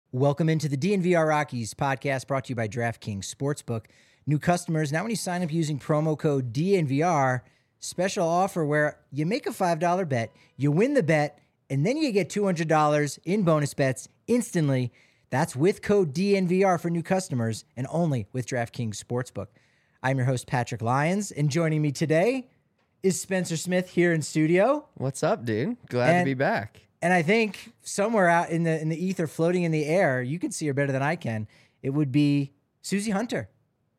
Welcome into the DNVR Rockies podcast brought to you by DraftKings Sportsbook. New customers, now when you sign up using promo code DNVR, special offer where you make a $5 bet, you win the bet, and then you get $200 in bonus bets instantly. That's with code DNVR for new customers and only with DraftKings Sportsbook. I'm your host, Patrick Lyons, and joining me today is Spencer Smith here in studio. What's up, dude? Glad to be back. And I think somewhere out in the ether, floating in the air, you can see her better than I can. It would be Susie Hunter.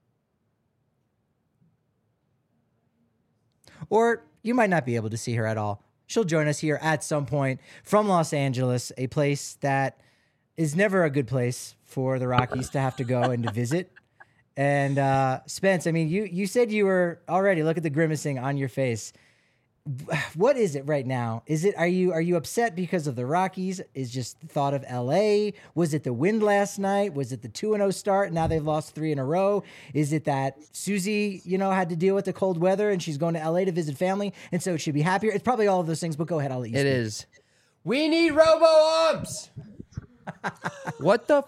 Or you might not be able to see her at all. She'll join us here at some point from Los Angeles, a place that is never a good place for the Rockies to have to go and to visit. And Spence, I mean, you said you were already, look at the grimacing on your face. What is it right now? Are you upset because of the Rockies? Is just the thought of LA? Was it the wind last night? Was it the 2-0 start? Now they've lost 3 in a row. Is it that Susie, had to deal with the cold weather and she's going to LA to visit family and so she'd be happier? It's probably all of those things, but go ahead, I'll let you speak. It is. We need robo-umps. What the?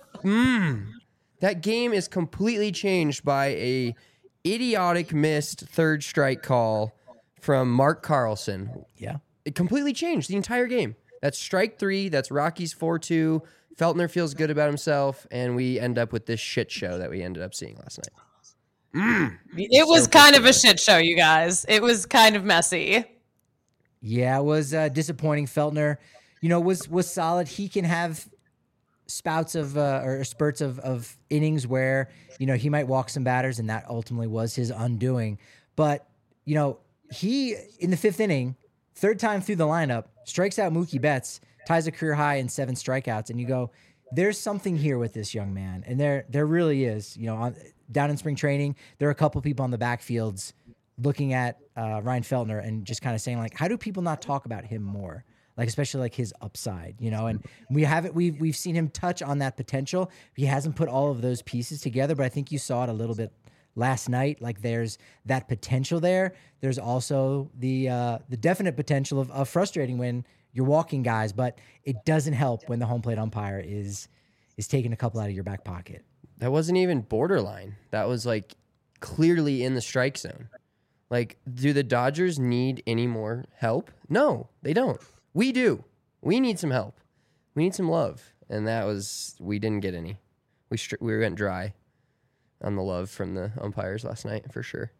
That game is completely changed by a idiotic missed third strike call from Mark Carlson. Yeah. It completely changed the entire game. That's strike 3. That's Rockies 4-2. Feltner feels good about himself, and we end up with this shit show that we ended up seeing last night. It was kind of a shit show, you guys. It was kind of messy. Yeah, it was disappointing. Feltner, was solid. He can have spouts of or spurts of innings where, he might walk some batters, and that ultimately was his undoing. But, he, in the 5th inning, third time through the lineup, strikes out Mookie Betts, ties a career high in 7 strikeouts, and you go, there's something here with this young man. And there really is. Down in spring training, there are a couple people on the backfields looking at Ryan Feltner and just kind of saying, like, how do people not talk about him more? Like, especially like his upside, and we've seen him touch on that potential. He hasn't put all of those pieces together, but I think you saw it a little bit last night. Like, there's that potential there. There's also the definite potential of frustrating when you're walking guys, but it doesn't help when the home plate umpire is taking a couple out of your back pocket. That wasn't even borderline. That was like clearly in the strike zone. Like, do the Dodgers need any more help? No, they don't. We do. We need some help. We need some love. And we didn't get any. We went dry on the love from the umpires last night, for sure.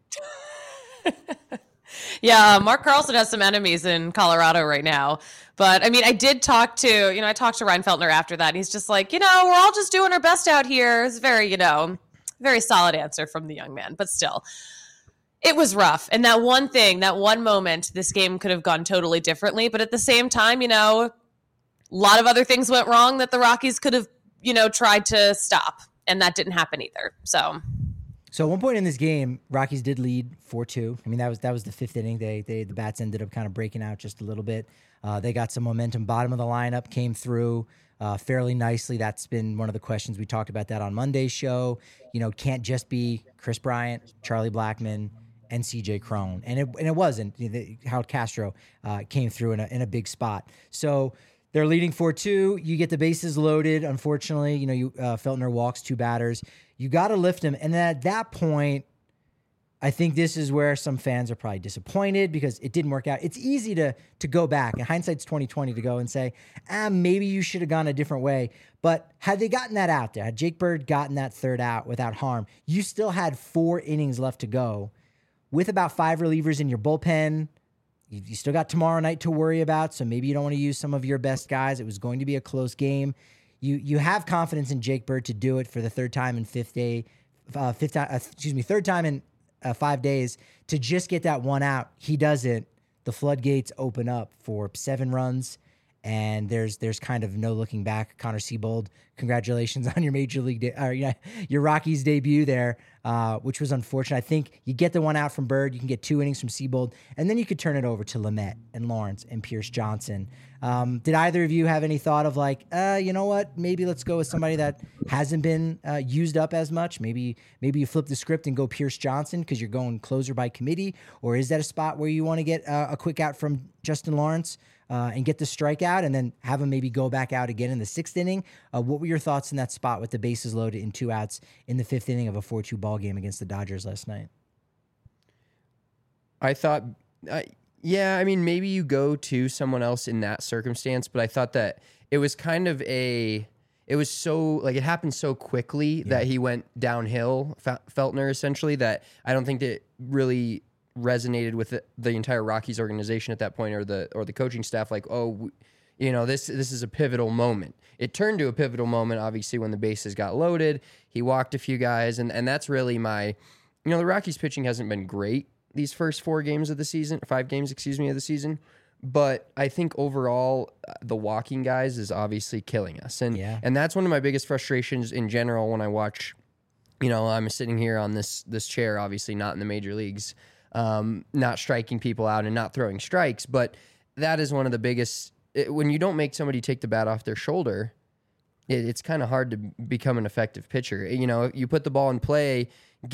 Yeah, Mark Carlson has some enemies in Colorado right now. But, I mean, I did talk to Ryan Feltner after that. And he's just like, we're all just doing our best out here. It's very, very solid answer from the young man. But still, it was rough. And that one moment, this game could have gone totally differently. But at the same time, a lot of other things went wrong that the Rockies could have, tried to stop. And that didn't happen either. So at one point in this game, Rockies did lead 4-2. I mean, that was the 5th inning. The bats ended up kind of breaking out just a little bit. They got some momentum. Bottom of the lineup came through fairly nicely. That's been one of the questions. We talked about that on Monday's show. Can't just be Chris Bryant, Charlie Blackmon, and CJ Cron. And it wasn't. Harold Castro came through in a big spot. So they're leading 4-2. You get the bases loaded. Unfortunately, Feltner walks 2 batters. You got to lift him. And then at that point, I think this is where some fans are probably disappointed because it didn't work out. It's easy to go back, and hindsight's 20/20, to go and say, maybe you should have gone a different way. But had they gotten that out there, had Jake Bird gotten that third out without harm, you still had 4 innings left to go with about 5 relievers in your bullpen. You still got tomorrow night to worry about, so maybe you don't want to use some of your best guys. It was going to be a close game. You have confidence in Jake Bird to do it for the third time in 5 days to just get that one out. He doesn't. The floodgates open up for 7 runs, and there's kind of no looking back. Connor Siebold, congratulations on your major league, your Rockies debut there, which was unfortunate. I think you get the one out from Bird, you can get 2 innings from Siebold, and then you could turn it over to Lamet and Lawrence and Pierce Johnson. Did either of you have any thought of like, you know what, maybe let's go with somebody that hasn't been used up as much? Maybe you flip the script and go Pierce Johnson because you're going closer by committee, or is that a spot where you want to get a quick out from Justin Lawrence? and get the strikeout, and then have him maybe go back out again in the 6th inning. What were your thoughts in that spot with the bases loaded and 2 outs in the 5th inning of a 4-2 ball game against the Dodgers last night? I thought, yeah, I mean, maybe you go to someone else in that circumstance, but I thought that it was kind of it was so, like, it happened so quickly that he went downhill, Feltner, essentially, that I don't think that really resonated with the entire Rockies organization at that point, or the coaching staff, like, this is a pivotal moment. It turned to a pivotal moment, obviously, when the bases got loaded. He walked a few guys, and that's really the Rockies pitching hasn't been great these first 5 games of the season, but I think overall the walking guys is obviously killing us. And that's one of my biggest frustrations in general when I watch, I'm sitting here on this chair, obviously not in the major leagues, not striking people out and not throwing strikes, but that is one of the biggest, when you don't make somebody take the bat off their shoulder, it's kind of hard to become an effective pitcher. You put the ball in play,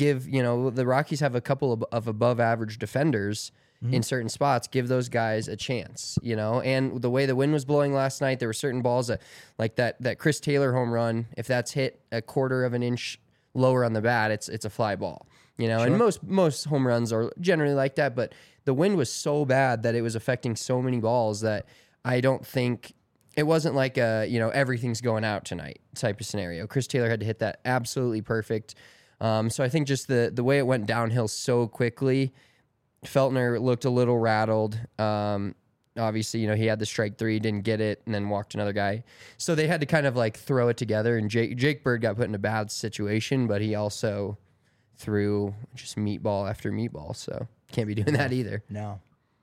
the Rockies have a couple of above average defenders in certain spots, give those guys a chance, and the way the wind was blowing last night, there were certain balls that, like that Chris Taylor home run, if that's hit a quarter of an inch lower on the bat, it's a fly ball, sure. And most home runs are generally like that, but the wind was so bad that it was affecting so many balls that I don't think it wasn't like everything's going out tonight type of scenario. Chris Taylor had to hit that absolutely perfect. So I think just the way it went downhill so quickly, Feltner looked a little rattled. Obviously, he had the strike 3, didn't get it, and then walked another guy. So they had to kind of like throw it together, and Jake Bird got put in a bad situation, but he also threw just meatball after meatball, so can't be doing that either. No.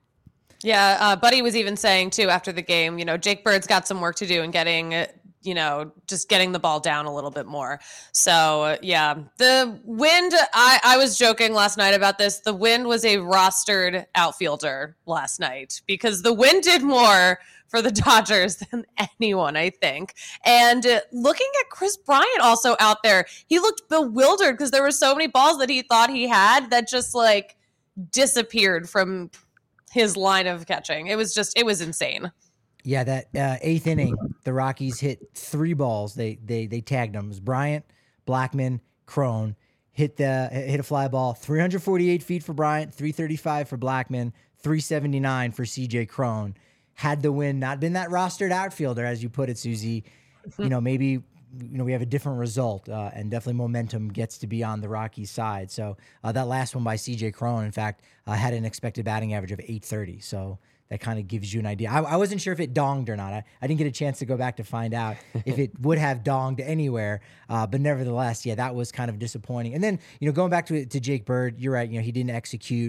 Yeah, Buddy was even saying, too, after the game, Jake Bird's got some work to do in getting just getting the ball down a little bit more. So, yeah, the wind, I was joking last night about this. The wind was a rostered outfielder last night because the wind did more for the Dodgers than anyone, I think. And looking at Chris Bryant also out there, he looked bewildered because there were so many balls that he thought he had that just like disappeared from his line of catching. It was insane. Yeah, that 8th inning, the Rockies hit 3 balls. They tagged them. It was Bryant, Blackmon, Cron. Hit a fly ball, 348 feet for Bryant, 335 for Blackmon, 379 for CJ Cron. Had the win not been that rostered outfielder, as you put it, Susie, maybe we have a different result, and definitely momentum gets to be on the Rockies side. So that last one by CJ Cron, in fact, had an expected batting average of 830. So that kind of gives you an idea. I wasn't sure if it donged or not. I didn't get a chance to go back to find out if it would have donged anywhere. But nevertheless, yeah, that was kind of disappointing. And then, going back to Jake Bird, you're right. He didn't execute.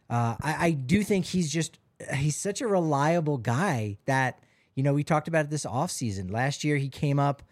I do think he's such a reliable guy that, we talked about it this offseason. Last year, he came up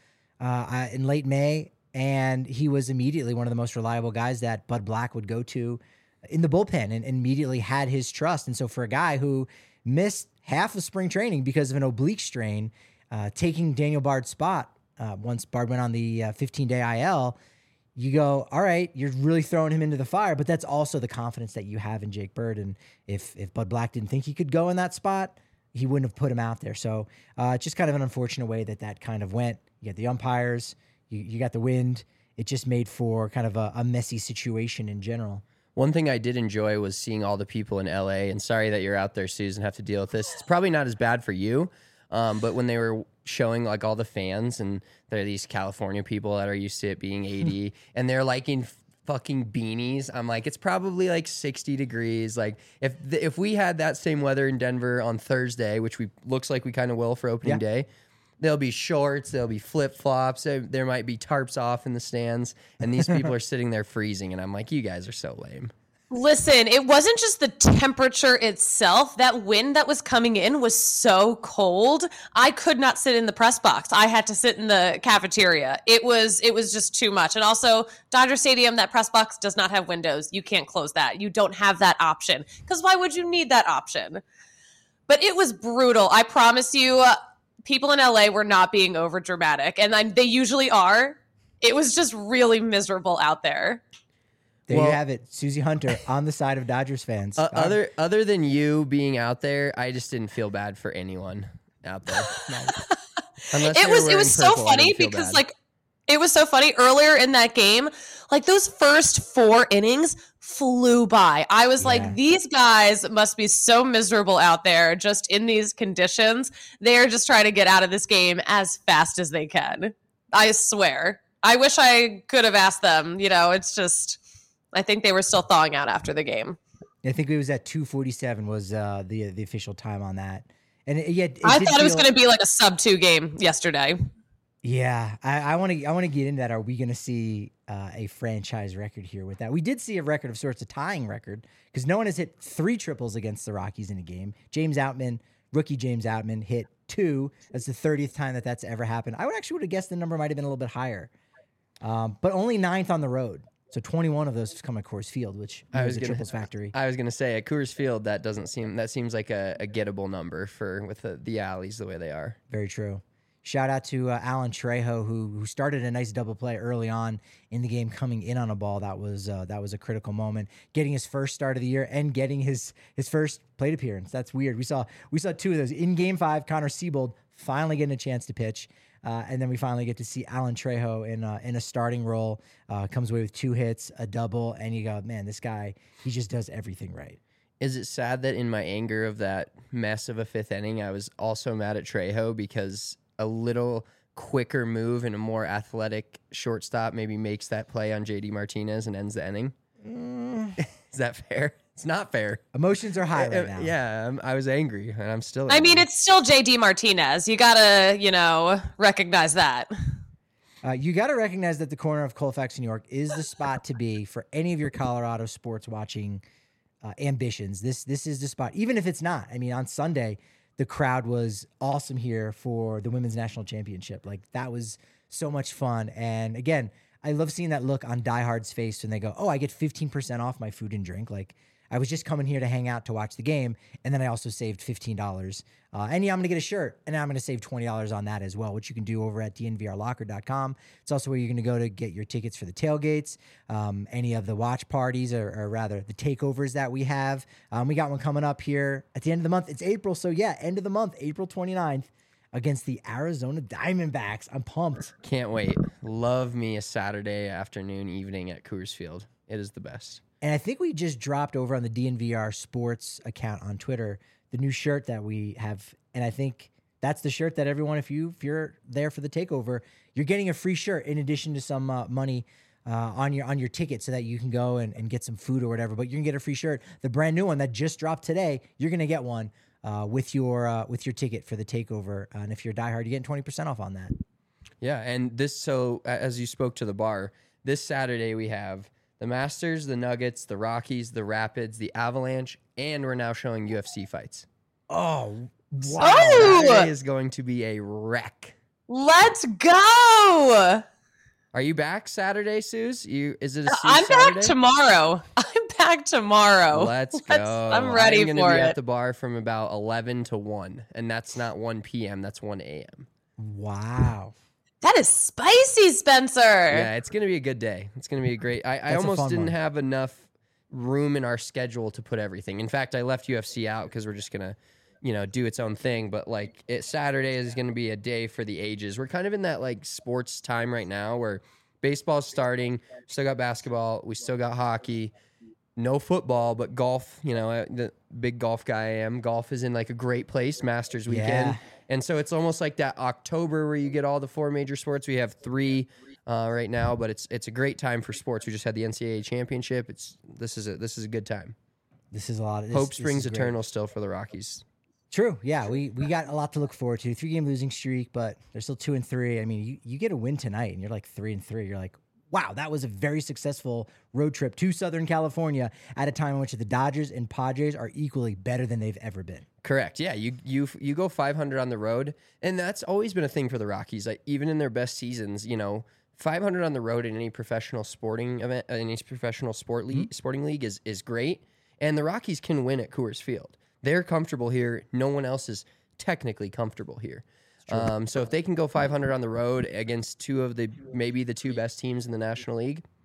in late May, and he was immediately one of the most reliable guys that Bud Black would go to in the bullpen, and immediately had his trust. And so for a guy who missed half of spring training because of an oblique strain, taking Daniel Bard's spot once Bard went on the 15-day IL, you go, all right, you're really throwing him into the fire, but that's also the confidence that you have in Jake Bird. And if Bud Black didn't think he could go in that spot, he wouldn't have put him out there. So it's just kind of an unfortunate way that kind of went. You got the umpires, you got the wind. It just made for kind of a messy situation in general. One thing I did enjoy was seeing all the people in LA, and sorry that you're out there, Susan, have to deal with this. It's probably not as bad for you, but when they were showing like all the fans, and there are these California people that are used to it being 80, and they're like in fucking beanies. I'm like, it's probably like 60 degrees. Like if we had that same weather in Denver on Thursday, which looks like we kind of will for opening day, there'll be shorts, there'll be flip-flops, there might be tarps off in the stands, and these people are sitting there freezing, and I'm like, you guys are so lame. Listen, it wasn't just the temperature itself. That wind that was coming in was so cold. I could not sit in the press box. I had to sit in the cafeteria. It was just too much. And also, Dodger Stadium, that press box does not have windows. You can't close that. You don't have that option. Because why would you need that option? But it was brutal. I promise you, people in LA were not being over dramatic, and they usually are. It was just really miserable out there. There you Well- have it. Susie Hunter on the side of Dodgers fans. Other than you being out there, I just didn't feel bad for anyone out there. Unless they were It wearing was so purple, I funny didn't feel because bad. like it was so funny earlier in that game, like those first 4 innings flew by. I was Yeah. like, these guys must be so miserable out there just in these conditions. They're just trying to get out of this game as fast as they can. I swear. I wish I could have asked them. It's just, I think they were still thawing out after the game. I think it was at 2:47 was the official time on that. And I thought it was going to be like a sub-2 game yesterday. Yeah, I want to get into that. Are we going to see a franchise record here with that? We did see a record of sorts, a tying record, because no one has hit 3 triples against the Rockies in a game. Rookie James Outman hit 2. That's the 30th time that's ever happened. I would have guessed the number might have been a little bit higher, but only 9th on the road. So 21 of those have come at Coors Field, which is a triples factory. I was gonna say at Coors Field that seems like a gettable number with the alleys the way they are. Very true. Shout out to Alan Trejo, who started a nice double play early on in the game, coming in on a ball that was a critical moment, getting his first start of the year and getting his first plate appearance. That's weird. We saw 2 of those in Game 5. Connor Siebold finally getting a chance to pitch, and then we finally get to see Alan Trejo in a starting role. Comes away with 2 hits, a double, and you go, man, this guy, he just does everything right. Is it sad that in my anger of that mess of a 5th inning, I was also mad at Trejo because a little quicker move and a more athletic shortstop maybe makes that play on JD Martinez and ends the inning? Is that fair? It's not fair. Emotions are high right now. Yeah, I was angry, and I'm still angry. I mean, it's still JD Martinez. You gotta, recognize that. You got to recognize that the corner of Colfax, New York, is the spot to be for any of your Colorado sports watching ambitions. This is the spot, even if it's not. I mean, on Sunday, the crowd was awesome here for the women's national championship. Like, that was so much fun. And again, I love seeing that look on diehards' face when they go, "Oh, I get 15% off my food and drink." Like, I was just coming here to hang out to watch the game, and then I also saved $15. And yeah, I'm going to get a shirt, and I'm going to save $20 on that as well, which you can do over at dnvrlocker.com. It's also where you're going to go to get your tickets for the tailgates, any of the watch parties, or rather the takeovers that we have. We got one coming up here at the end of the month. It's April, so yeah, end of the month, April 29th, against the Arizona Diamondbacks. I'm pumped. Can't wait. Love me a Saturday afternoon, evening at Coors Field. It is the best. And I think we just dropped over on the DNVR Sports account on Twitter the new shirt that we have. And I think that's the shirt that everyone, if you're there for the takeover, you're getting a free shirt in addition to some money on your ticket so that you can go and get some food or whatever. But you can get a free shirt. The brand new one that just dropped today, you're going to get one with your ticket for the takeover. And if you're a diehard, you're getting 20% off on that. Yeah, and so as you spoke to the bar, this Saturday we have the Masters, the Nuggets, the Rockies, the Rapids, the Avalanche, and we're now showing UFC fights. Oh, wow. Oh! Saturday is going to be a wreck. Let's go. Are you back Saturday, Suze? Is it a Suze I'm Saturday? back tomorrow. Let's go. I'm ready I'm gonna for be it. at the bar from about 11 to 1, and that's not 1 p.m., that's 1 a.m. Wow. That is spicy, Spencer. Yeah, it's going to be a good day. It's going to be a great... I That's a almost fun didn't one. have enough room in our schedule to put everything. In fact, I left UFC out because we're just going to, do its own thing. But, Saturday is going to be a day for the ages. We're kind of in that, sports time right now where baseball's starting. Still got basketball. We still got hockey. No football, but golf, the big golf guy I am. Golf is in, a great place, Masters weekend. Yeah. And so it's almost like that October where you get all the 4 major sports. We have 3 right now, but it's a great time for sports. We just had the NCAA championship. This is a good time. This is a lot. Hope this springs is great. eternal still for the Rockies. True. Yeah, we got a lot to look forward to. 3-game losing streak, but they're still 2-3. I mean, you get a win tonight, and you're 3-3. You're like, wow, that was a very successful road trip to Southern California at a time in which the Dodgers and Padres are equally better than they've ever been. Correct. Yeah, you go 500 on the road, and that's always been a thing for the Rockies. Even in their best seasons, 500 on the road in any professional sporting event, any professional sporting league is great. And the Rockies can win at Coors Field. They're comfortable here. No one else is technically comfortable here. So if they can go 500 on the road against maybe the 2 best teams in the National League,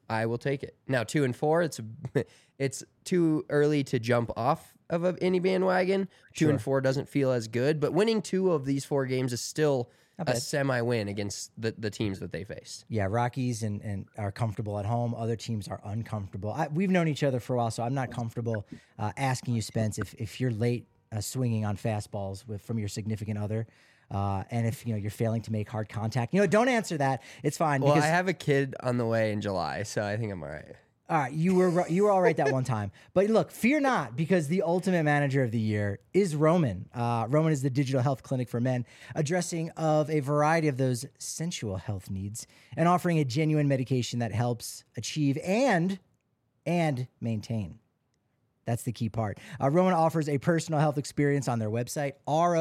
I will take it. Now 2-4, it's too early to jump off of any bandwagon. 2-4 doesn't feel as good, but winning 2 of these 4 games is still a semi-win against the teams that they faced. Yeah, Rockies and are comfortable at home. Other teams are uncomfortable. We've known each other for a while, so I'm not comfortable asking you, Spence, if you're late swinging on fastballs from your significant other. And if you're failing to make hard contact, don't answer that. It's fine. Well, I have a kid on the way in July, so I think I'm all right. All right, you were all right that one time. But look, fear not, because the ultimate manager of the year is Roman. Roman is the digital health clinic for men, addressing of a variety of those sensual health needs and offering a genuine medication that helps achieve and maintain. That's the key part. Roman offers a personal health experience on their website,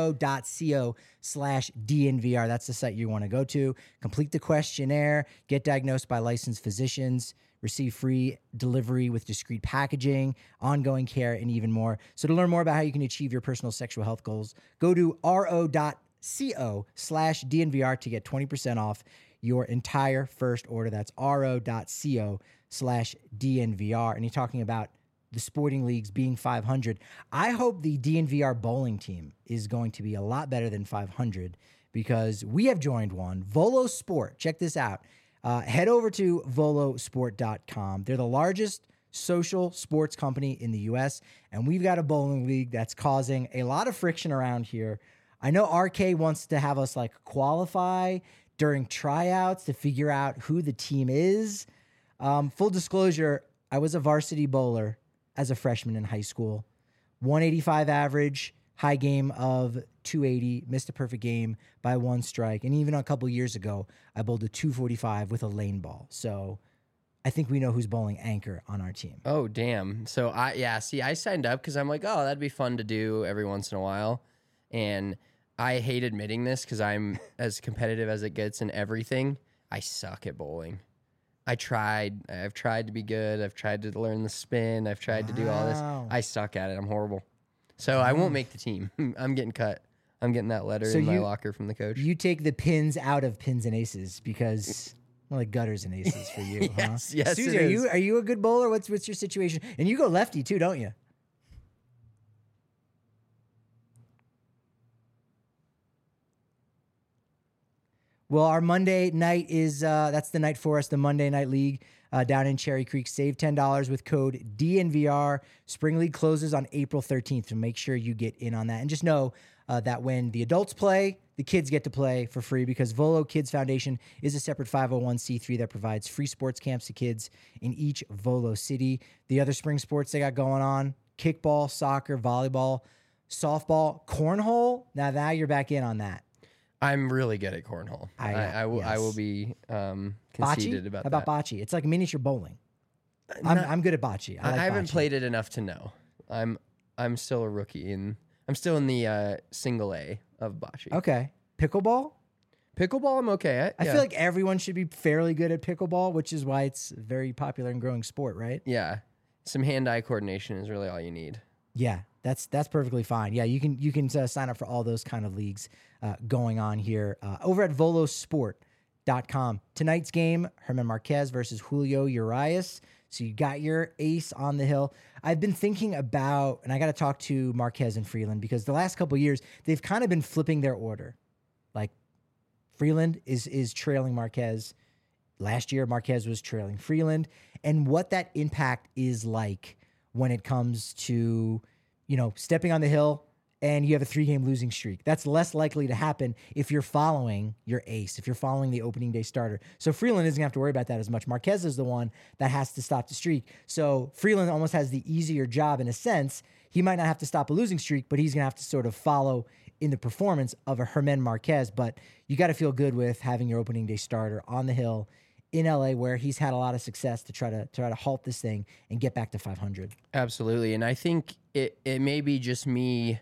ro.co/DNVR. That's the site you want to go to. Complete the questionnaire, get diagnosed by licensed physicians, receive free delivery with discreet packaging, ongoing care, and even more. So to learn more about how you can achieve your personal sexual health goals, go to ro.co/DNVR to get 20% off your entire first order. That's ro.co/DNVR. And you're talking about the sporting leagues being 500. I hope the DNVR bowling team is going to be a lot better than 500 because we have joined one, Volo Sport. Check this out. Head over to volosport.com. They're the largest social sports company in the U.S., and we've got a bowling league that's causing a lot of friction around here. I know RK wants to have us qualify during tryouts to figure out who the team is. Full disclosure, I was a varsity bowler as a freshman in high school. 185 average, high game of 280, missed a perfect game by 1 strike. And even a couple years ago, I bowled a 245 with a lane ball. So I think we know who's bowling anchor on our team. Oh, damn. So I signed up because I'm like, oh, that'd be fun to do every once in a while. And I hate admitting this because I'm as competitive as it gets in everything. I suck at bowling. I've tried to be good. I've tried to learn the spin. I've tried to do all this. I suck at it. I'm horrible. So I won't make the team. I'm getting cut. I'm getting that letter in my locker from the coach. You take the pins out of pins and aces because like gutters and aces for you. Yes, huh? yes. Susie, are you a good bowler? What's your situation? And you go lefty too, don't you? Well, our Monday night is that's the night for us, the Monday Night League down in Cherry Creek. Save $10 with code DNVR. Spring League closes on April 13th, so make sure you get in on that. And just know that when the adults play, the kids get to play for free because Volo Kids Foundation is a separate 501c3 that provides free sports camps to kids in each Volo city. The other spring sports they got going on, kickball, soccer, volleyball, softball, cornhole. Now you're back in on that. I'm really good at cornhole. I will be conceited about that. How about bocce? It's like miniature bowling. I'm good at bocce. I haven't played it enough to know. I'm still a rookie I'm still in the single A of bocce. Okay. Pickleball? Pickleball I'm okay at. I feel like everyone should be fairly good at pickleball, which is why it's a very popular and growing sport, right? Yeah. Some hand-eye coordination is really all you need. Yeah, that's perfectly fine. Yeah, you can sign up for all those kind of leagues going on here over at volosport.com. Tonight's game, Herman Marquez versus Julio Urias. So you got your ace on the hill. I've been thinking about, and I got to talk to Marquez and Freeland because the last couple of years, they've kind of been flipping their order. Like Freeland is trailing Marquez. Last year, Marquez was trailing Freeland. And what that impact is like when it comes to, stepping on the hill and you have a 3-game losing streak. That's less likely to happen if you're following your ace, if you're following the opening day starter. So Freeland isn't going to have to worry about that as much. Marquez is the one that has to stop the streak. So Freeland almost has the easier job in a sense. He might not have to stop a losing streak, but he's going to have to sort of follow in the performance of a Herman Marquez. But you got to feel good with having your opening day starter on the hill in LA, where he's had a lot of success to try to halt this thing and get back to 500. Absolutely. And I think it may be just me,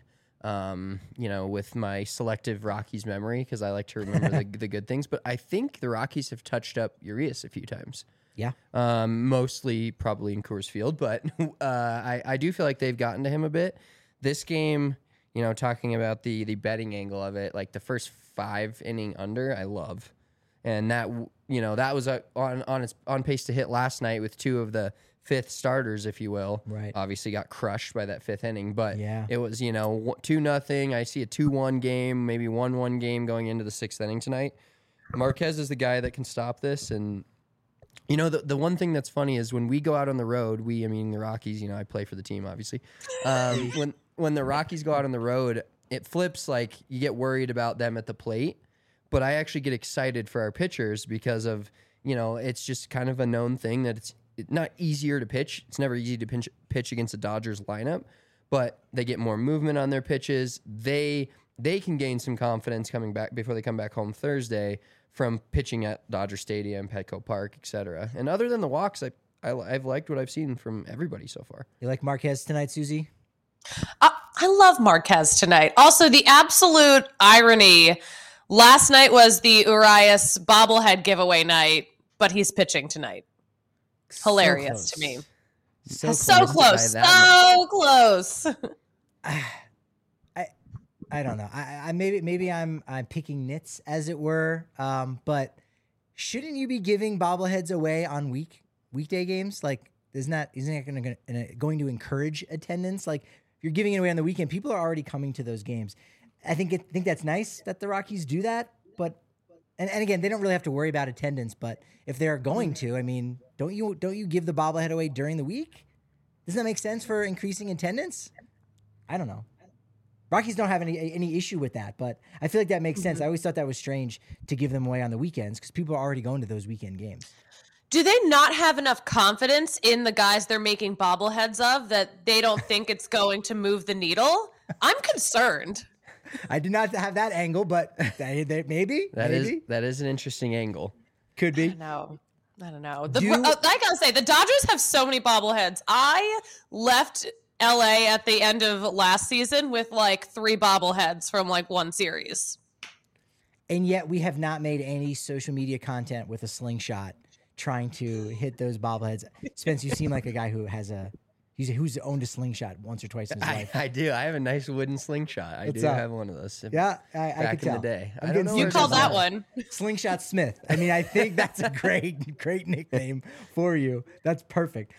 with my selective Rockies memory, because I like to remember the good things, but I think the Rockies have touched up Urias a few times. Yeah. Mostly probably in Coors Field, but I do feel like they've gotten to him a bit. This game, talking about the betting angle of it, like the first 5 inning under, I love. And that that was on pace to hit last night with 2 of the 5th starters, if you will. Right. Obviously got crushed by that 5th inning, but Yeah. it was 2-0. I see a 2-1 game, maybe 1-1 game going into the 6th inning tonight. Marquez is the guy that can stop this, and the one thing that's funny is when we go out on the road, the Rockies, I play for the team, obviously. When the Rockies go out on the road, it flips, like you get worried about them at the plate, but I actually get excited for our pitchers because of, it's just kind of a known thing that it's not easier to pitch. It's never easy to pitch against the Dodgers lineup, but they get more movement on their pitches. They can gain some confidence coming back before they come back home Thursday from pitching at Dodger Stadium, Petco Park, etc. And other than the walks, I've liked what I've seen from everybody so far. You like Marquez tonight, Susie? I love Marquez tonight. Also, the absolute irony, last night was the Urias bobblehead giveaway night, but he's pitching tonight. Hilarious to me. So close. So close. I don't know. I maybe I'm picking nits, as it were. But shouldn't you be giving bobbleheads away on weekday games? Like, isn't that going to encourage attendance? Like, if you're giving it away on the weekend, people are already coming to those games. I think that's nice that the Rockies do that. But and again, they don't really have to worry about attendance. But if they're going to, don't you give the bobblehead away during the week? Doesn't that make sense for increasing attendance? I don't know. Rockies don't have any issue with that, but I feel like that makes sense. I always thought that was strange to give them away on the weekends because people are already going to those weekend games. Do they not have enough confidence in the guys they're making bobbleheads of that they don't think it's going to move the needle? I'm concerned. I did not have that angle, but maybe. That is an interesting angle. Could be. I don't know. I gotta say, the Dodgers have so many bobbleheads. I left LA at the end of last season with like 3 bobbleheads from like one series. And yet we have not made any social media content with a slingshot trying to hit those bobbleheads. Spence, you seem like a guy who's owned a slingshot once or twice in his life. I do. I have a nice wooden slingshot. I do have one of those. Yeah, I back could tell. in the day. I don't know you called that one Slingshot Smith. I think that's a great nickname for you. That's perfect.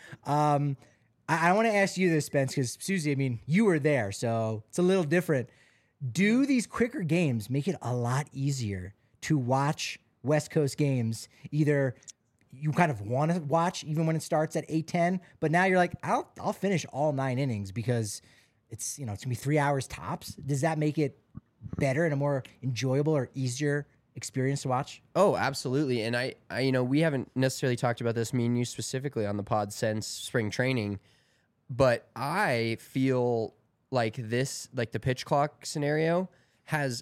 I want to ask you this, Spence, because Susie, you were there, so it's a little different. Do these quicker games make it a lot easier to watch West Coast games? Either you kind of want to watch even when it starts at 8:10, but now you're like, I'll finish all 9 innings because it's it's gonna be 3 hours tops. Does that make it better and a more enjoyable or easier experience to watch? Oh, absolutely. And I we haven't necessarily talked about this, me and you specifically, on the pod since spring training. But I feel like the pitch clock scenario has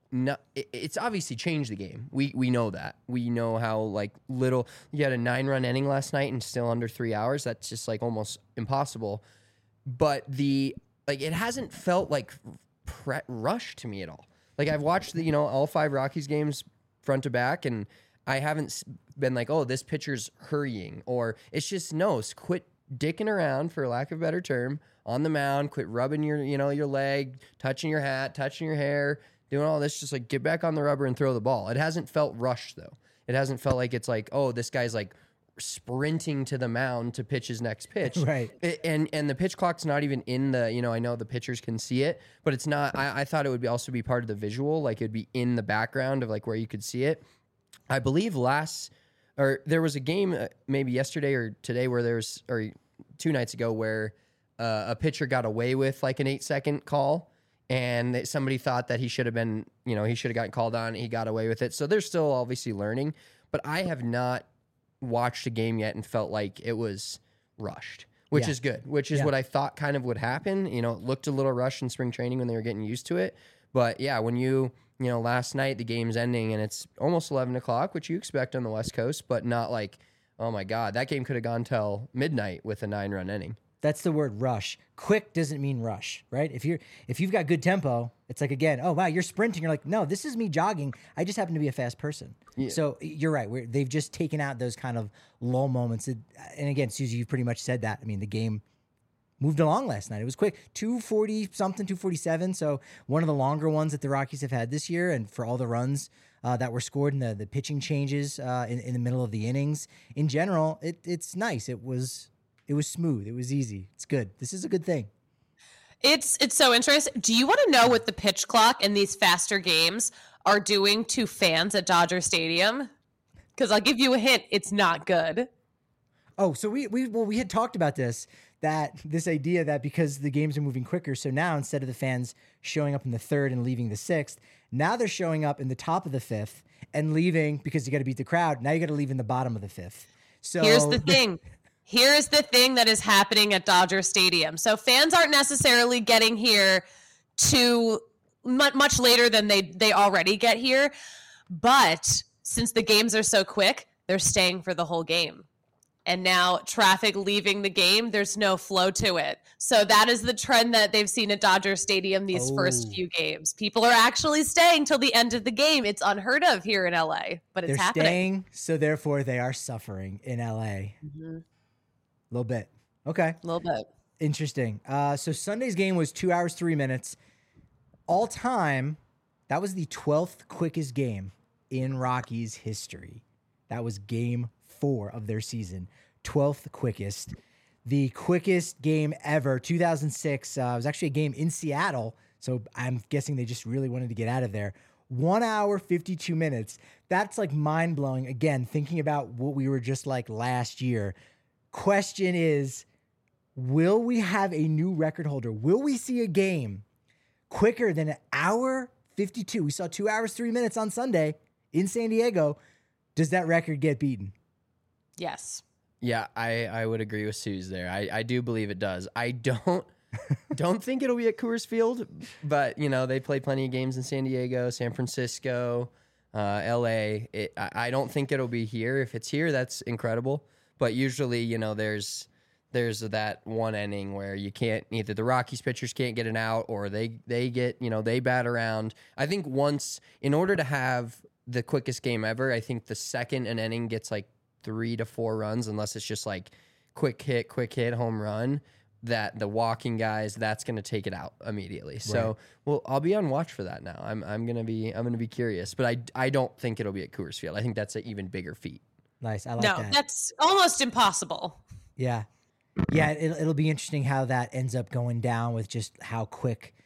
it's obviously changed the game. We know that. We know how little you had a 9-run inning last night and still under 3 hours. That's just almost impossible. But it hasn't felt like rushed to me at all. Like I've watched all 5 Rockies games front to back, and I haven't been like, oh, this pitcher's hurrying, or it's just quit dicking around, for lack of a better term, on the mound. Quit rubbing your leg, touching your hat, touching your hair, doing all this. Just get back on the rubber and throw the ball. It hasn't felt rushed though. It hasn't felt like it's like, oh, this guy's sprinting to the mound to pitch his next pitch. Right. And the pitch clock's not even in the, I know the pitchers can see it, but it's not. I thought it would also be part of the visual, it'd be in the background of where you could see it. I believe there was a game maybe yesterday or today or 2 nights ago where a pitcher got away with an 8-second call, and somebody thought that he should have been, he should have gotten called on. He got away with it. So they're still obviously learning, but I have not watched a game yet and felt like it was rushed, which is good, which is what I thought kind of would happen. It looked a little rushed in spring training when they were getting used to it. But yeah, when last night the game's ending and it's almost 11 o'clock, which you expect on the West Coast, but not oh my God, that game could have gone till midnight with a 9-run inning. That's the word rush. Quick doesn't mean rush, right? If you've got good tempo, it's again, oh wow, you're sprinting. You're like, no, this is me jogging. I just happen to be a fast person. Yeah. So you're right. They've just taken out those kind of lull moments. And again, Susie, you've pretty much said that. The game moved along last night. It was quick, 240 something, 247. So one of the longer ones that the Rockies have had this year, and for all the runs that were scored and the pitching changes in the middle of the innings. In general, it's nice. It was smooth. It was easy. It's good. This is a good thing. It's so interesting. Do you want to know what the pitch clock and these faster games are doing to fans at Dodger Stadium? Because I'll give you a hint. It's not good. Oh, so we had talked about this idea that because the games are moving quicker, so now instead of the fans showing up in the third and leaving the sixth, now they're showing up in the top of the fifth and leaving because you got to beat the crowd. Now you got to leave in the bottom of the fifth. So here's the thing. Here's the thing that is happening at Dodger Stadium. So fans aren't necessarily getting here to much later than they already get here, but since the games are so quick, they're staying for the whole game. And now traffic leaving the game, there's no flow to it. So that is the trend that they've seen at Dodger Stadium these first few games. People are actually staying till the end of the game. It's unheard of here in LA, but it's happening. They're staying, so therefore they are suffering in LA. Mm-hmm. A little bit. Okay. A little bit. Interesting. So Sunday's game was 2 hours, 3 minutes. All time, that was the 12th quickest game in Rockies history. That was game 4 of their season. 12th quickest. The quickest game ever, 2006. It was actually a game in Seattle, so I'm guessing they just really wanted to get out of there. 1 hour, 52 minutes. That's like mind-blowing. Again, thinking about what we were just like last year. Question is, will we have a new record holder? Will we see a game quicker than an hour 52? We saw 2 hours, 3 minutes on Sunday in San Diego. Does that record get beaten? Yes. Yeah, I would agree with Suze there. I do believe it does. I don't think it'll be at Coors Field, but they play plenty of games in San Diego, San Francisco, LA. I don't think it'll be here. If it's here, that's incredible. But usually, there's that one inning where you can't, either the Rockies pitchers can't get an out or they get, they bat around. I think once, in order to have the quickest game ever, I think the second an inning gets like 3 to 4 runs, unless it's just like quick hit, home run, that the walking guys, that's going to take it out immediately. Right. So, well, I'll be on watch for that now. I'm going to be curious, but I don't think it'll be at Coors Field. I think that's an even bigger feat. Nice. I like that. No, that's almost impossible. Yeah. Yeah. It'll be interesting how that ends up going down with just how quick,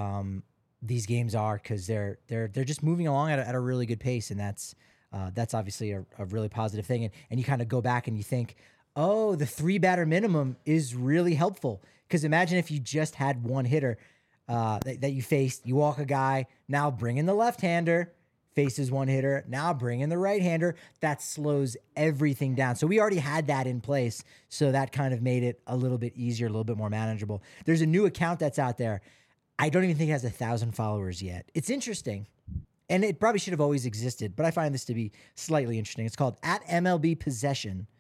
these games are, because they're just moving along at a really good pace, and that's obviously a really positive thing. And you kind of go back and you think, oh, the 3-batter minimum is really helpful, because imagine if you just had one hitter that you faced. You walk a guy, now bring in the left-hander, faces one hitter, now bring in the right-hander. That slows everything down. So we already had that in place, so that kind of made it a little bit easier, a little bit more manageable. There's a new account that's out there. I don't even think it has 1,000 followers yet. It's interesting, and it probably should have always existed, but I find this to be slightly interesting. It's called @MLB Possession,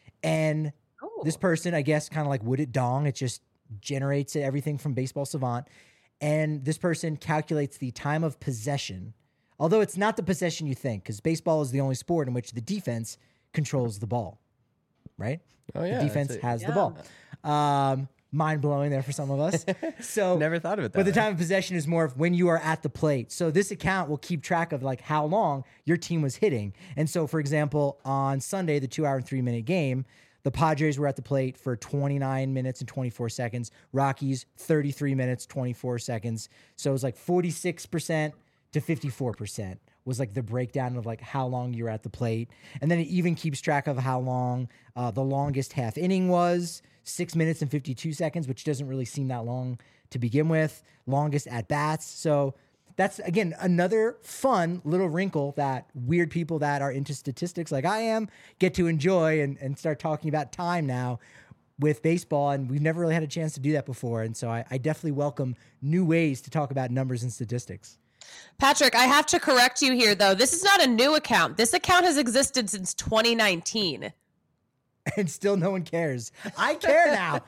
and this person, I guess, kind of like Would It Dong, it just generates everything from Baseball Savant, and this person calculates the time of possession, although it's not the possession you think, because baseball is the only sport in which the defense controls the ball, right? Oh, yeah. The defense has the ball. Mind-blowing there for some of us. So never thought of it that But the way. time of possession is more of when you are at the plate. So this account will keep track of like how long your team was hitting. And so, for example, on Sunday, the 2 hour and 3 minute game, the Padres were at the plate for 29 minutes and 24 seconds. Rockies, 33 minutes, 24 seconds. So it was like 46% to 54% was like the breakdown of like how long you're at the plate. And then it even keeps track of how long the longest half inning was, 6 minutes and 52 seconds, which doesn't really seem that long to begin with. Longest at bats. So that's, again, another fun little wrinkle that weird people that are into statistics like I am get to enjoy and start talking about time now with baseball. And we've never really had a chance to do that before. And so I definitely welcome new ways to talk about numbers and statistics. Patrick, I have to correct you here, though. This is not a new account. This account has existed since 2019. And still no one cares. I care now.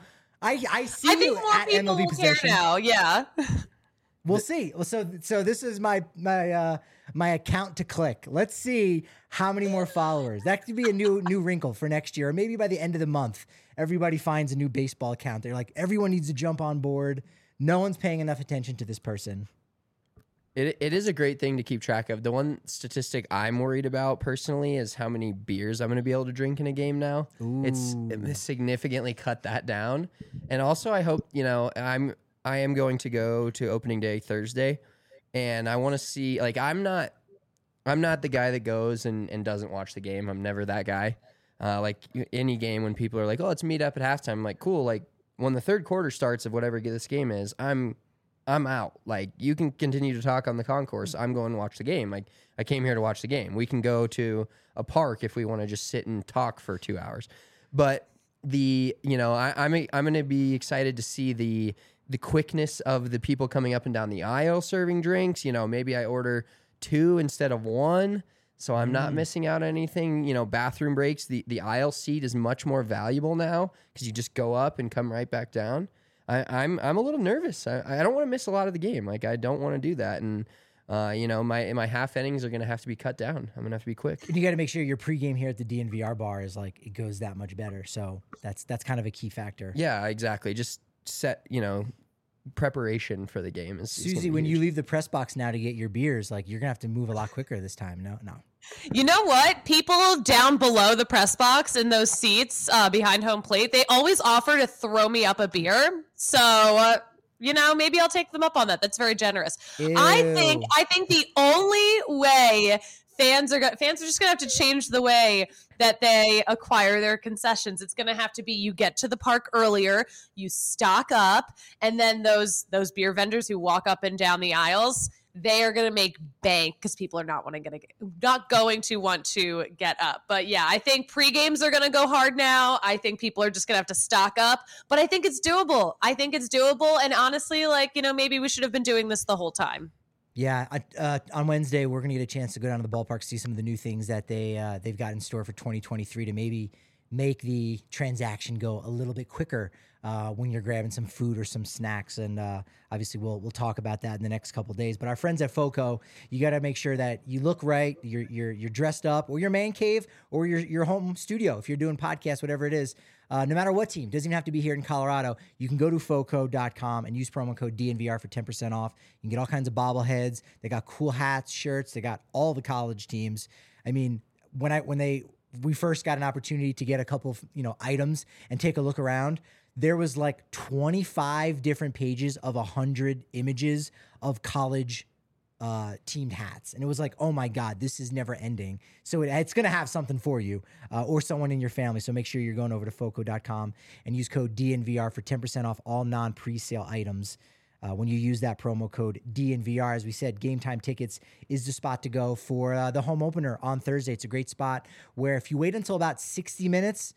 I see I think you more at people MLB will care Possession. now. Yeah. We'll see. So this is my my account to click. Let's see how many more followers. That could be a new wrinkle for next year. Or maybe by the end of the month, everybody finds a new baseball account. They're like, everyone needs to jump on board. No one's paying enough attention to this person. It is a great thing to keep track of. The one statistic I'm worried about personally is how many beers I'm going to be able to drink in a game now. It's significantly cut that down. And also I hope, I am going to go to opening day Thursday, and I want to see, like, I'm not the guy that goes and doesn't watch the game. I'm never that guy. Like any game when people are like, "Oh, let's meet up at halftime." I'm like, cool. Like when the third quarter starts of whatever this game is, I'm out. Like, you can continue to talk on the concourse. I'm going to watch the game. Like, I came here to watch the game. We can go to a park if we want to just sit and talk for 2 hours. But I'm going to be excited to see the quickness of the people coming up and down the aisle serving drinks. Maybe I order 2 instead of 1, so I'm not missing out on anything. Bathroom breaks. The aisle seat is much more valuable now because you just go up and come right back down. I'm a little nervous. I don't want to miss a lot of the game. Like, I don't want to do that. And my half innings are going to have to be cut down. I'm going to have to be quick. And you got to make sure your pregame here at the DNVR bar is like, it goes that much better. So that's kind of a key factor. Yeah, exactly. Just set, preparation for the game is Susie, when you leave the press box now to get your beers, like, you're gonna have to move a lot quicker this time. No. You know what? People down below the press box in those seats behind home plate, they always offer to throw me up a beer. So maybe I'll take them up on that. That's very generous. Ew. I think the only way fans are just gonna have to change the way that they acquire their concessions. It's going to have to be, you get to the park earlier, you stock up, and then those beer vendors who walk up and down the aisles, they are going to make bank because people are not going to want to get up. But yeah, I think pre-games are going to go hard now. I think people are just going to have to stock up, but I think it's doable. And honestly, maybe we should have been doing this the whole time. Yeah, on Wednesday, we're going to get a chance to go down to the ballpark, see some of the new things that they've got in store for 2023 to maybe make the transaction go a little bit quicker when you're grabbing some food or some snacks. And obviously, we'll talk about that in the next couple of days. But our friends at FOCO, you got to make sure that you look right, you're dressed up, or your man cave, or your home studio if you're doing podcasts, whatever it is. No matter what team, doesn't even have to be here in Colorado. You can go to FOCO.com and use promo code DNVR for 10% off. You can get all kinds of bobbleheads. They got cool hats, shirts. They got all the college teams. I mean, we first got an opportunity to get a couple of items and take a look around, there was like 25 different pages of 100 images of college teamed hats. And it was like, oh my God, this is never ending. So it's going to have something for you or someone in your family. So make sure you're going over to FOCO.com and use code DNVR for 10% off all non-presale items. When you use that promo code DNVR, as we said, Game Time Tickets is the spot to go for the home opener on Thursday. It's a great spot where if you wait until about 60 minutes,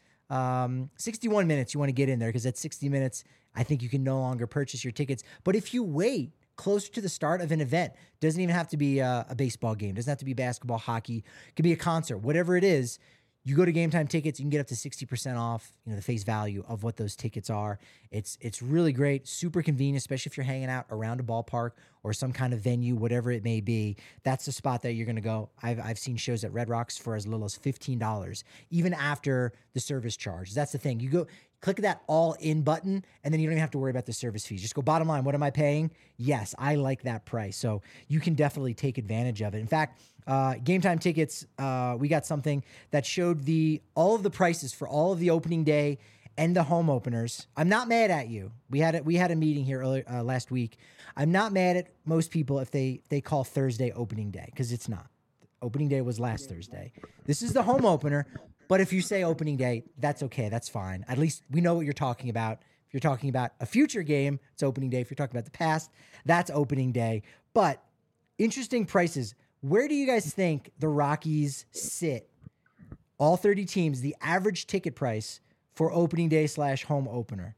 61 minutes, you want to get in there because at 60 minutes, I think you can no longer purchase your tickets. But if you wait closer to the start of an event, doesn't even have to be a baseball game, doesn't have to be basketball, hockey, it could be a concert, whatever it is. You go to Game Time Tickets, you can get up to 60% off, the face value of what those tickets are. It's really great, super convenient, especially if you're hanging out around a ballpark or some kind of venue, whatever it may be. That's the spot that you're going to go. I've seen shows at Red Rocks for as little as $15, even after the service charge. That's the thing. You go click that all in button, and then you don't even have to worry about the service fees. Just go bottom line. What am I paying? Yes, I like that price. So you can definitely take advantage of it. In fact, Game Time Tickets, we got something that showed all of the prices for all of the opening day and the home openers. I'm not mad at you. We had a meeting here last week. I'm not mad at most people if they call Thursday opening day, because it's not. Opening day was last Thursday. This is the home opener. But if you say opening day, that's okay. That's fine. At least we know what you're talking about. If you're talking about a future game, it's opening day. If you're talking about the past, that's opening day. But interesting prices. Where do you guys think the Rockies sit? All 30 teams, the average ticket price for opening day / home opener.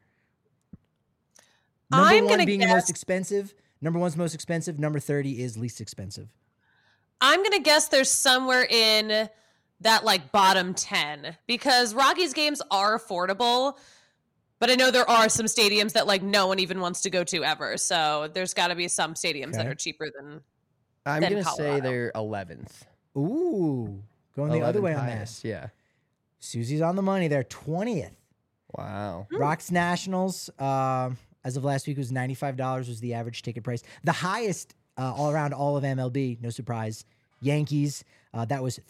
Number one being the most expensive. Number one's most expensive. Number 30 is least expensive. I'm going to guess there's somewhere in that bottom 10, because Rockies games are affordable, but I know there are some stadiums that no one even wants to go to ever. So there's got to be some stadiums that are cheaper than. I'm than going to say Colorado. they're 11th. Ooh, going the other way on that. highest, yeah. Susie's on the money there, 20th. Wow. Rocks Nationals, as of last week, was $95 was the average ticket price. The highest all around all of MLB, no surprise. Yankees, that was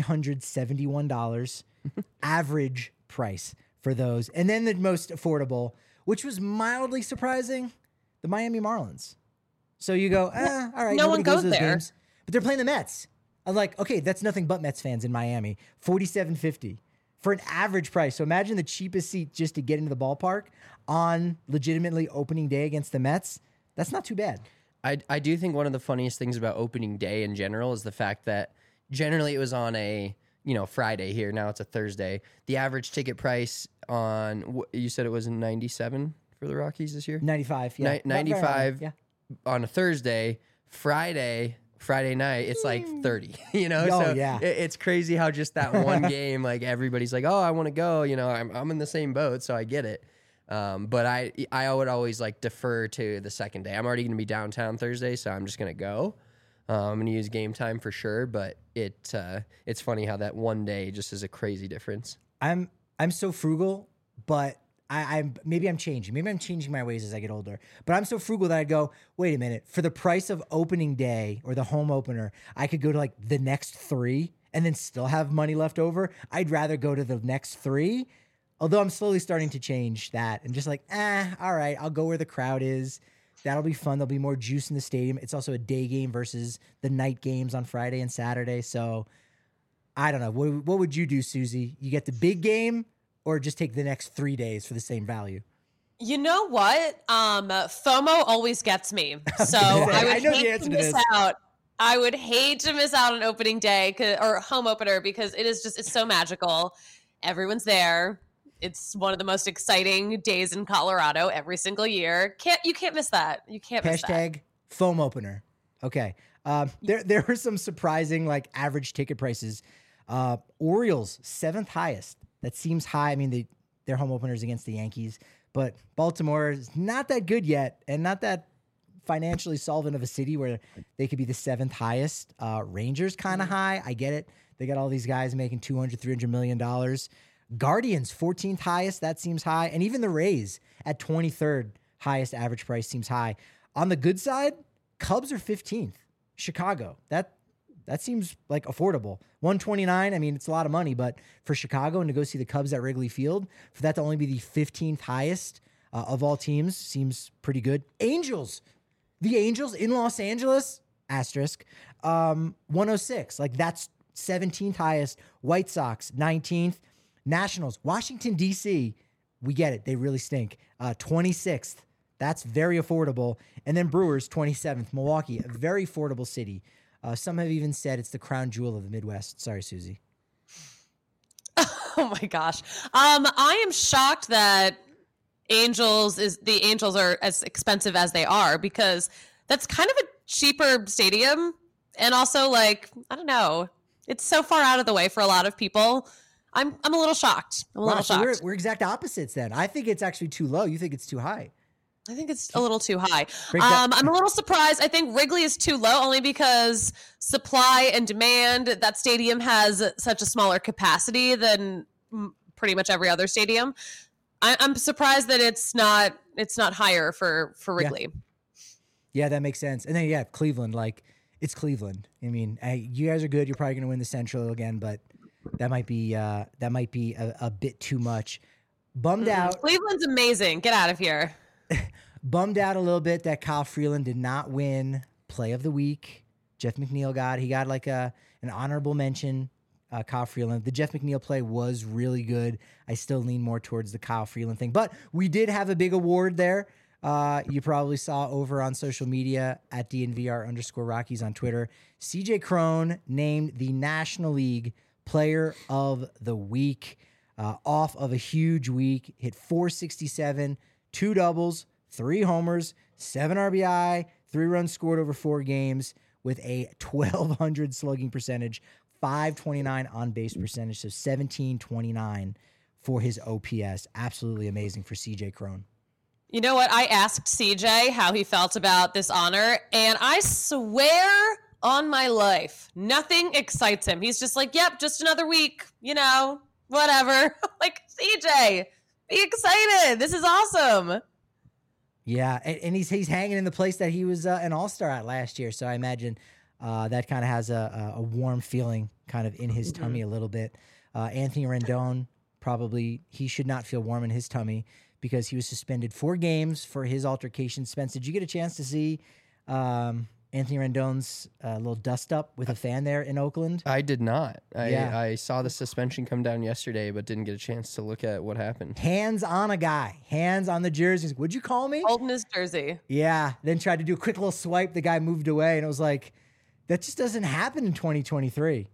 $371 average price for those. And then the most affordable, which was mildly surprising, the Miami Marlins. So you go, all right, No one nobody goes goes to those there. games, but they're playing the Mets. I'm like, okay, that's nothing but Mets fans in Miami. $47.50 for an average price. So imagine the cheapest seat just to get into the ballpark on legitimately opening day against the Mets. That's not too bad. I do think one of the funniest things about opening day in general is the fact that generally it was on a Friday here. Now it's a Thursday. The average ticket price on you said it was 97 for the Rockies this year. 95, yeah. 95 yeah. on a Thursday. Friday night it's like 30. Oh, so yeah. it's crazy how just that one game like everybody's like, oh, I want to go. I'm in the same boat, so I get it. But I would always like defer to the second day. I'm already going to be downtown Thursday, so I'm just going to go. I'm going to use Game Time for sure, but it's funny how that one day just is a crazy difference. I'm so frugal, but maybe I'm changing. Maybe I'm changing my ways as I get older. But I'm so frugal that I'd go, wait a minute, for the price of opening day or the home opener, I could go to like the next 3 and then still have money left over. I'd rather go to the next 3. Although I'm slowly starting to change that and just like, all right, I'll go where the crowd is. That'll be fun. There'll be more juice in the stadium. It's also a day game versus the night games on Friday and Saturday. So I don't know. What would you do, Susie? You get the big game or just take the next 3 days for the same value? You know what? FOMO always gets me. So I would hate to miss out. I would hate to miss out on opening day or home opener because it's so magical. Everyone's there. It's one of the most exciting days in Colorado every single year. You can't miss that. You can't miss that. Hashtag foam opener. Okay. There were some surprising like average ticket prices. Orioles, 7th highest. That seems high. I mean, their home openers against the Yankees, but Baltimore is not that good yet and not that financially solvent of a city where they could be the 7th highest. Rangers kind of high. I get it. They got all these guys making $200, $300 million. Guardians, 14th highest. That seems high. And even the Rays at 23rd highest average price seems high. On the good side, Cubs are 15th. Chicago, that seems like affordable. 129. I mean, it's a lot of money, but for Chicago and to go see the Cubs at Wrigley Field, for that to only be the 15th highest of all teams seems pretty good. Angels, the Angels in Los Angeles, asterisk, 106. Like that's 17th highest. White Sox, 19th. Nationals, Washington, D.C., we get it. They really stink. 26th. That's very affordable. And then Brewers, 27th. Milwaukee, a very affordable city. Some have even said it's the crown jewel of the Midwest. Sorry, Susie. Oh my gosh. I am shocked that the Angels are as expensive as they are because that's kind of a cheaper stadium. And also like, I don't know, it's so far out of the way for a lot of people. I'm a little shocked. So we're exact opposites then. I think it's actually too low. You think it's too high. I think it's a little too high. I'm a little surprised. I think Wrigley is too low only because supply and demand, that stadium has such a smaller capacity than pretty much every other stadium. I'm surprised that it's not higher for Wrigley. Yeah, that makes sense. And then, Cleveland, like it's Cleveland. I mean, you guys are good. You're probably going to win the Central again, but that might be a bit too much. Bummed out. Cleveland's amazing. Get out of here. Bummed out a little bit that Kyle Freeland did not win Play of the Week. Jeff McNeil got like an honorable mention. Kyle Freeland. The Jeff McNeil play was really good. I still lean more towards the Kyle Freeland thing, but we did have a big award there. You probably saw over on social media at DNVR_Rockies on Twitter. CJ Cron named the National League Player of the Week off of a huge week. Hit .467, 2 doubles, 3 homers, 7 RBI, 3 runs scored over 4 games with a 1,200 slugging percentage, 529 on base percentage, so 1729 for his OPS. Absolutely amazing for CJ Cron. You know what? I asked CJ how he felt about this honor, and I swear on my life. Nothing excites him. He's just like, yep, just another week, whatever. Like, CJ, be excited. This is awesome. Yeah, and he's hanging in the place that he was an all-star at last year. So I imagine that kind of has a warm feeling kind of in his tummy a little bit. Anthony Rendon, probably he should not feel warm in his tummy because he was suspended 4 games for his altercation. Spence, did you get a chance to see Anthony Rendon's little dust-up with a fan there in Oakland? I did not. Yeah. I saw the suspension come down yesterday, but didn't get a chance to look at what happened. Hands on a guy, hands on the jerseys. Would you call me? Holding his jersey. Yeah, then tried to do a quick little swipe. The guy moved away, and it was like, that just doesn't happen in 2023.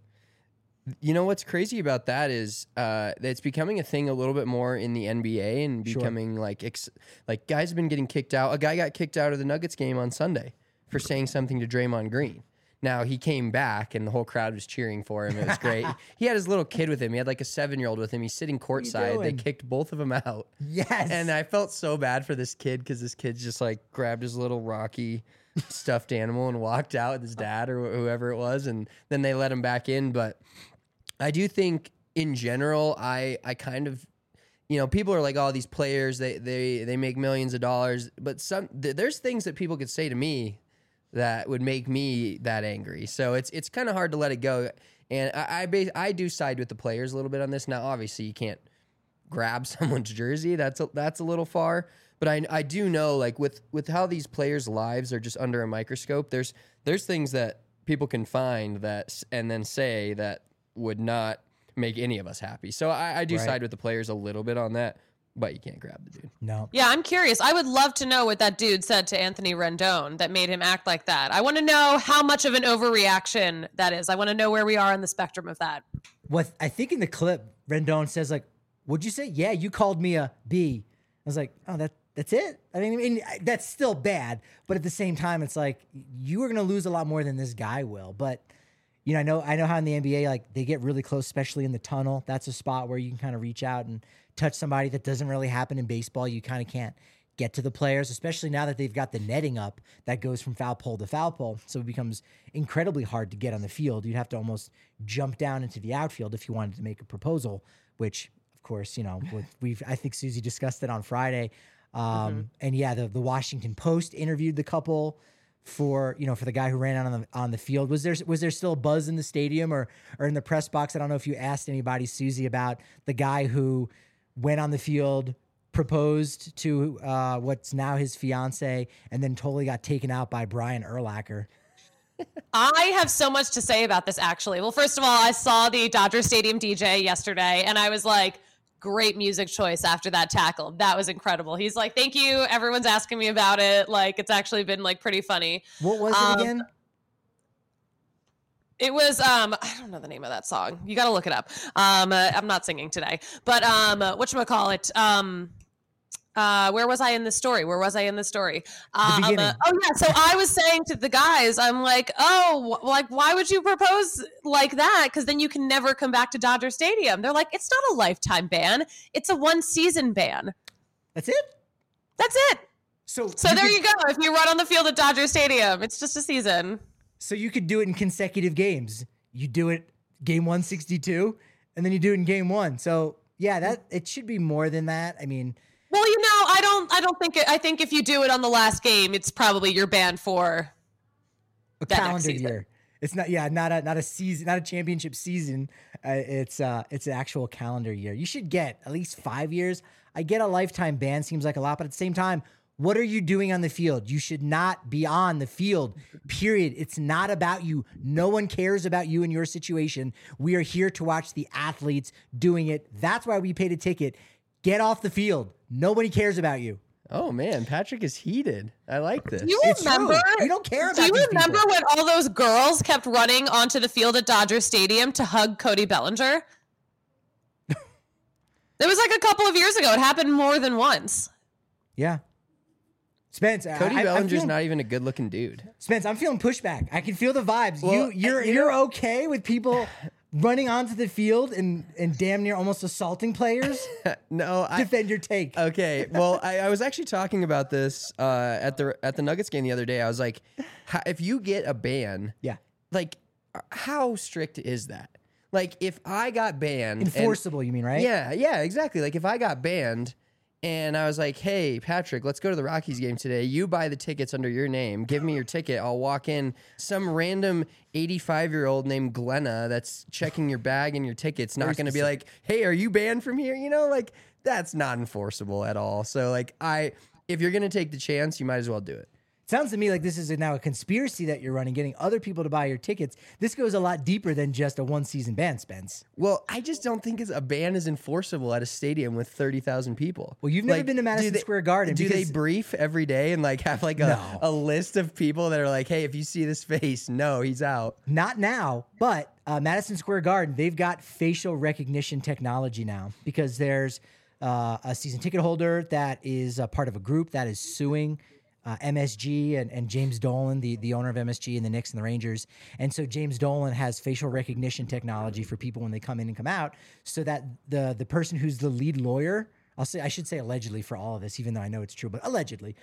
You know what's crazy about that is it's becoming a thing a little bit more in the NBA and becoming like guys have been getting kicked out. A guy got kicked out of the Nuggets game on Sunday for saying something to Draymond Green. Now he came back and the whole crowd was cheering for him. It was great. He had his little kid with him. He had like a 7-year-old with him. He's sitting courtside. They kicked both of them out. Yes. And I felt so bad for this kid because this kid just like grabbed his little Rocky stuffed animal and walked out with his dad or whoever it was. And then they let him back in. But I do think in general, I kind of, people are like, oh, these players, they make millions of dollars. But there's things that people could say to me that would make me that angry. So it's kind of hard to let it go. And I do side with the players a little bit on this. Now, obviously, you can't grab someone's jersey. That's a little far. But I do know, like with how these players' lives are just under a microscope, there's things that people can find that and then say that would not make any of us happy. So I do side with the players a little bit on that. But you can't grab the dude. No. Yeah, I'm curious. I would love to know what that dude said to Anthony Rendon that made him act like that. I want to know how much of an overreaction that is. I want to know where we are on the spectrum of that. What I think in the clip, Rendon says like, "What'd you say? Yeah, you called me a B." I was like, "Oh, that's it." I mean, that's still bad, but at the same time, it's like you are going to lose a lot more than this guy will. But I know how in the NBA, like they get really close, especially in the tunnel. That's a spot where you can kind of reach out and touch somebody. That doesn't really happen in baseball. You kind of can't get to the players, especially now that they've got the netting up that goes from foul pole to foul pole. So it becomes incredibly hard to get on the field. You'd have to almost jump down into the outfield if you wanted to make a proposal, which of course, I think Susie discussed it on Friday. And yeah, the Washington Post interviewed the couple for the guy who ran out on the field. Was there still a buzz in the stadium or in the press box? I don't know if you asked anybody, Susie, about the guy who went on the field, proposed to what's now his fiance, and then totally got taken out by Brian Urlacher. I have so much to say about this, actually. Well, first of all, I saw the Dodger Stadium DJ yesterday, and I was like, great music choice after that tackle. That was incredible. He's like, thank you. Everyone's asking me about it. Like, it's actually been like pretty funny. What was it again? It was, I don't know the name of that song. You got to look it up. I'm not singing today, but whatchamacallit? Where was I in this story? The beginning. Oh yeah. So I was saying to the guys, I'm like, why would you propose like that? Because then you can never come back to Dodger Stadium. They're like, it's not a lifetime ban. It's a 1-season ban. That's it? That's it. So there you go. If you run on the field at Dodger Stadium, it's just a season. So you could do it in consecutive games. You do it game 162, and then you do it in game 1. So yeah, it should be more than that. I mean, well, I don't think I think if you do it on the last game, it's probably you're banned for a calendar year. It's not a season, not a championship season. It's an actual calendar year. You should get at least 5 years. I get a lifetime ban seems like a lot, but at the same time, what are you doing on the field? You should not be on the field, period. It's not about you. No one cares about you and your situation. We are here to watch the athletes doing it. That's why we paid a ticket. Get off the field. Nobody cares about you. Oh man, Patrick is heated. I like this. You remember? You don't care about Do you these remember people. when all those girls kept running onto the field at Dodger Stadium to hug Cody Bellinger? It was like a couple of years ago. It happened more than once. Yeah. Spence, Cody Bellinger's not even a good-looking dude. Spence, I'm feeling pushback. I can feel the vibes. Well, You're okay with people running onto the field and damn near almost assaulting players? No, Defend your take. Okay, well, I was actually talking about this at the Nuggets game the other day. I was like, if you get a ban, Yeah. like, how strict is that? Like, if I got banned, Enforceable, you mean, right? yeah, exactly. Like, if I got banned and I was like, hey, Patrick, let's go to the Rockies game today. You buy the tickets under your name. Give me your ticket. I'll walk in. Some random 85-year-old named Glenna that's checking your bag and your tickets not going to be like, hey, are you banned from here? You know, like, that's not enforceable at all. So, like, if you're going to take the chance, you might as well do it. Sounds to me like this is now a conspiracy that you're running, getting other people to buy your tickets. This goes a lot deeper than just a one-season ban, Spence. Well, I just don't think a ban is enforceable at a stadium with 30,000 people. Well, you've never been to Madison Square Garden. Do they brief every day and like have like a list of people that are like, hey, if you see this face, no, he's out? Not now, but Madison Square Garden, they've got facial recognition technology now because there's a season ticket holder that is a part of a group that is suing MSG and James Dolan, the owner of MSG and the Knicks and the Rangers. And so James Dolan has facial recognition technology for people when they come in and come out so that the person who's the lead lawyer, I should say allegedly for all of this, even though I know it's true, but allegedly,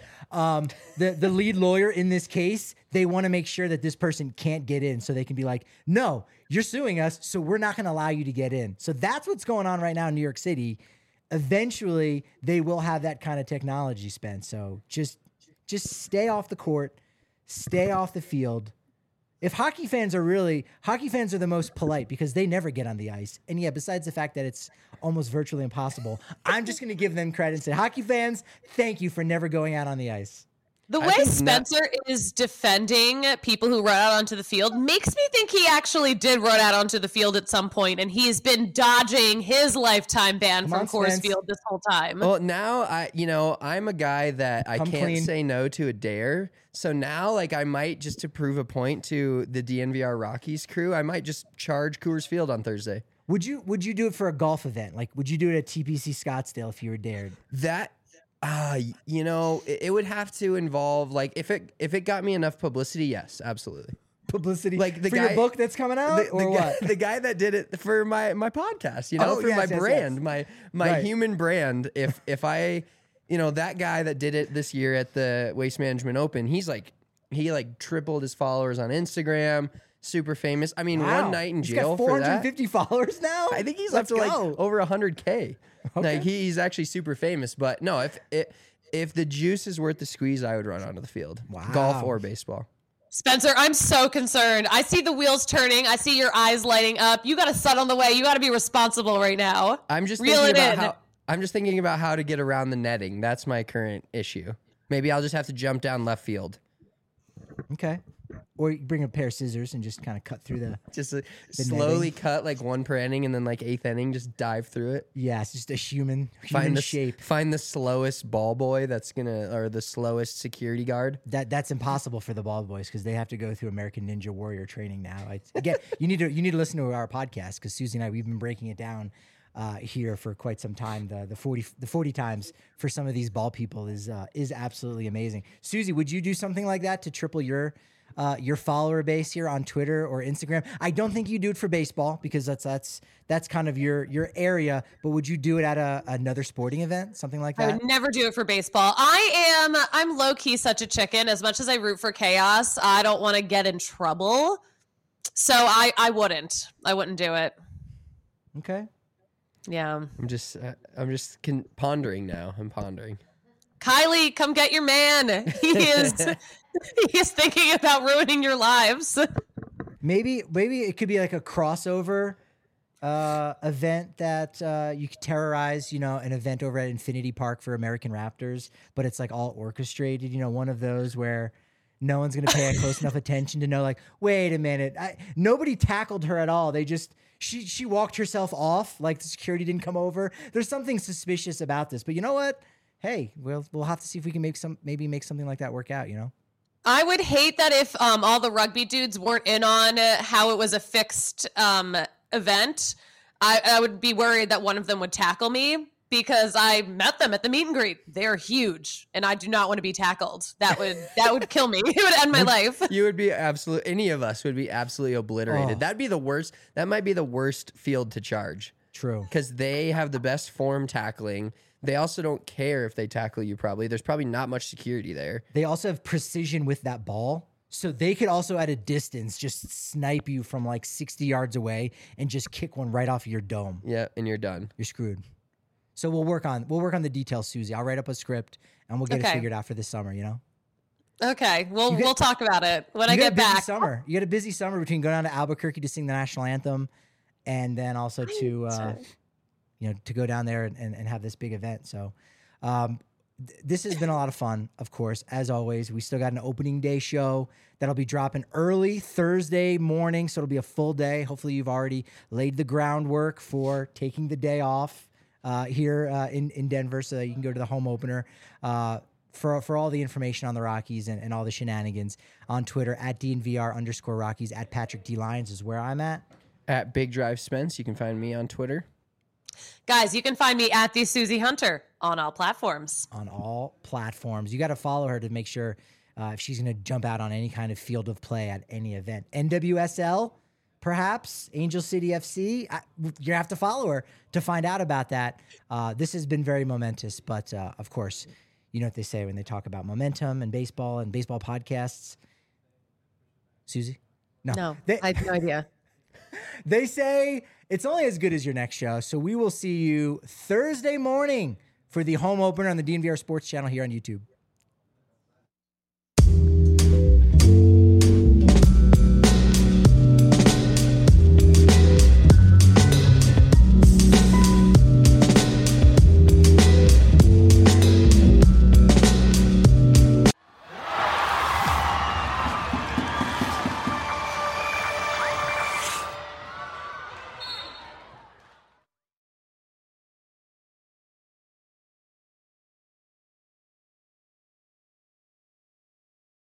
the lead lawyer in this case, they want to make sure that this person can't get in so they can be like, no, you're suing us, so we're not going to allow you to get in. So that's what's going on right now in New York City. Eventually, they will have that kind of technology, Spence. So just stay off the court, stay off the field. If hockey fans are the most polite because they never get on the ice. And yeah, besides the fact that it's almost virtually impossible, I'm just going to give them credit and say, hockey fans, thank you for never going out on the ice. The way Spencer is defending people who run out onto the field makes me think he actually did run out onto the field at some point, and he's been dodging his lifetime ban from Coors Field this whole time. Well, now I'm a guy that I can't say no to a dare. So now, like, I might, just to prove a point to the DNVR Rockies crew, I might just charge Coors Field on Thursday. Would you do it for a golf event? Like, would you do it at TPC Scottsdale if you were dared? It would have to involve, like, if it got me enough publicity, yes, absolutely. Publicity, like the your book that's coming out, the guy that did it for my podcast, my brand, my human brand. If I, that guy that did it this year at the Waste Management Open, he tripled his followers on Instagram. Super famous. I mean, one night in jail for that. 450 followers now. I think he's up to like over 100K. Okay. Like he's actually super famous. But no, if the juice is worth the squeeze, I would run onto the field. Wow. Golf or baseball. Spencer, I'm so concerned. I see the wheels turning. I see your eyes lighting up. You got a son on the way. You got to be responsible right now. I'm just thinking about how to get around the netting. That's my current issue. Maybe I'll just have to jump down left field. Okay. Or you bring a pair of scissors and just kind of cut through the slowly cut like one per inning and then like eighth inning, just dive through it. Yeah, it's just a human shape. Find the slowest ball boy or the slowest security guard. That's impossible for the ball boys because they have to go through American Ninja Warrior training now. Again, you need to listen to our podcast because Susie and I, we've been breaking it down here for quite some time. The 40 times for some of these ball people is absolutely amazing. Susie, would you do something like that to triple your follower base here on Twitter or Instagram? I don't think you do it for baseball because that's kind of your area, but would you do it at another sporting event, something like that? I would never do it for baseball. I'm low key such a chicken. As much as I root for chaos, I don't want to get in trouble. So I wouldn't do it. Okay. Yeah. I'm just pondering now. I'm pondering. Kylie, come get your man. He is thinking about ruining your lives. Maybe it could be like a crossover event that you could terrorize, an event over at Infinity Park for American Raptors, but it's like all orchestrated, one of those where no one's going to pay close enough attention to know, like, wait a minute. Nobody tackled her at all. They just, she walked herself off. Like the security didn't come over. There's something suspicious about this, but you know what? Hey, we'll have to see if we can make something like that work out, I would hate that if all the rugby dudes weren't in on how it was a fixed event. I would be worried that one of them would tackle me because I met them at the meet and greet. They're huge, and I do not want to be tackled. That would kill me. It would end my life. You would be any of us would be absolutely obliterated. Oh. That'd be the worst. That might be the worst field to charge. True. Because they have the best form tackling. They also don't care if they tackle you, probably. There's probably not much security there. They also have precision with that ball. So they could also at a distance just snipe you from like 60 yards away and just kick one right off your dome. Yeah, and you're done. You're screwed. So we'll work on the details, Susie. I'll write up a script and we'll get it figured out for this summer, you know? Okay, we'll talk about it when I get back. Summer. You got a busy summer between going down to Albuquerque to sing the national anthem and then also to to go down there and have this big event. So this has been a lot of fun, of course. As always, we still got an opening day show that'll be dropping early Thursday morning, so it'll be a full day. Hopefully, you've already laid the groundwork for taking the day off here in Denver, so that you can go to the home opener. For all the information on the Rockies and all the shenanigans on Twitter at DNVR_Rockies at Patrick D Lyons is where I'm at. At Big Drive Spence, you can find me on Twitter. Guys, you can find me at the Susie Hunter on all platforms. On all platforms. You got to follow her to make sure if she's going to jump out on any kind of field of play at any event. NWSL, perhaps, Angel City FC. You have to follow her to find out about that. This has been very momentous, but of course, you know what they say when they talk about momentum and baseball podcasts. Susie? No, I have no idea. They say it's only as good as your next show. So we will see you Thursday morning for the home opener on the DNVR Sports channel here on YouTube.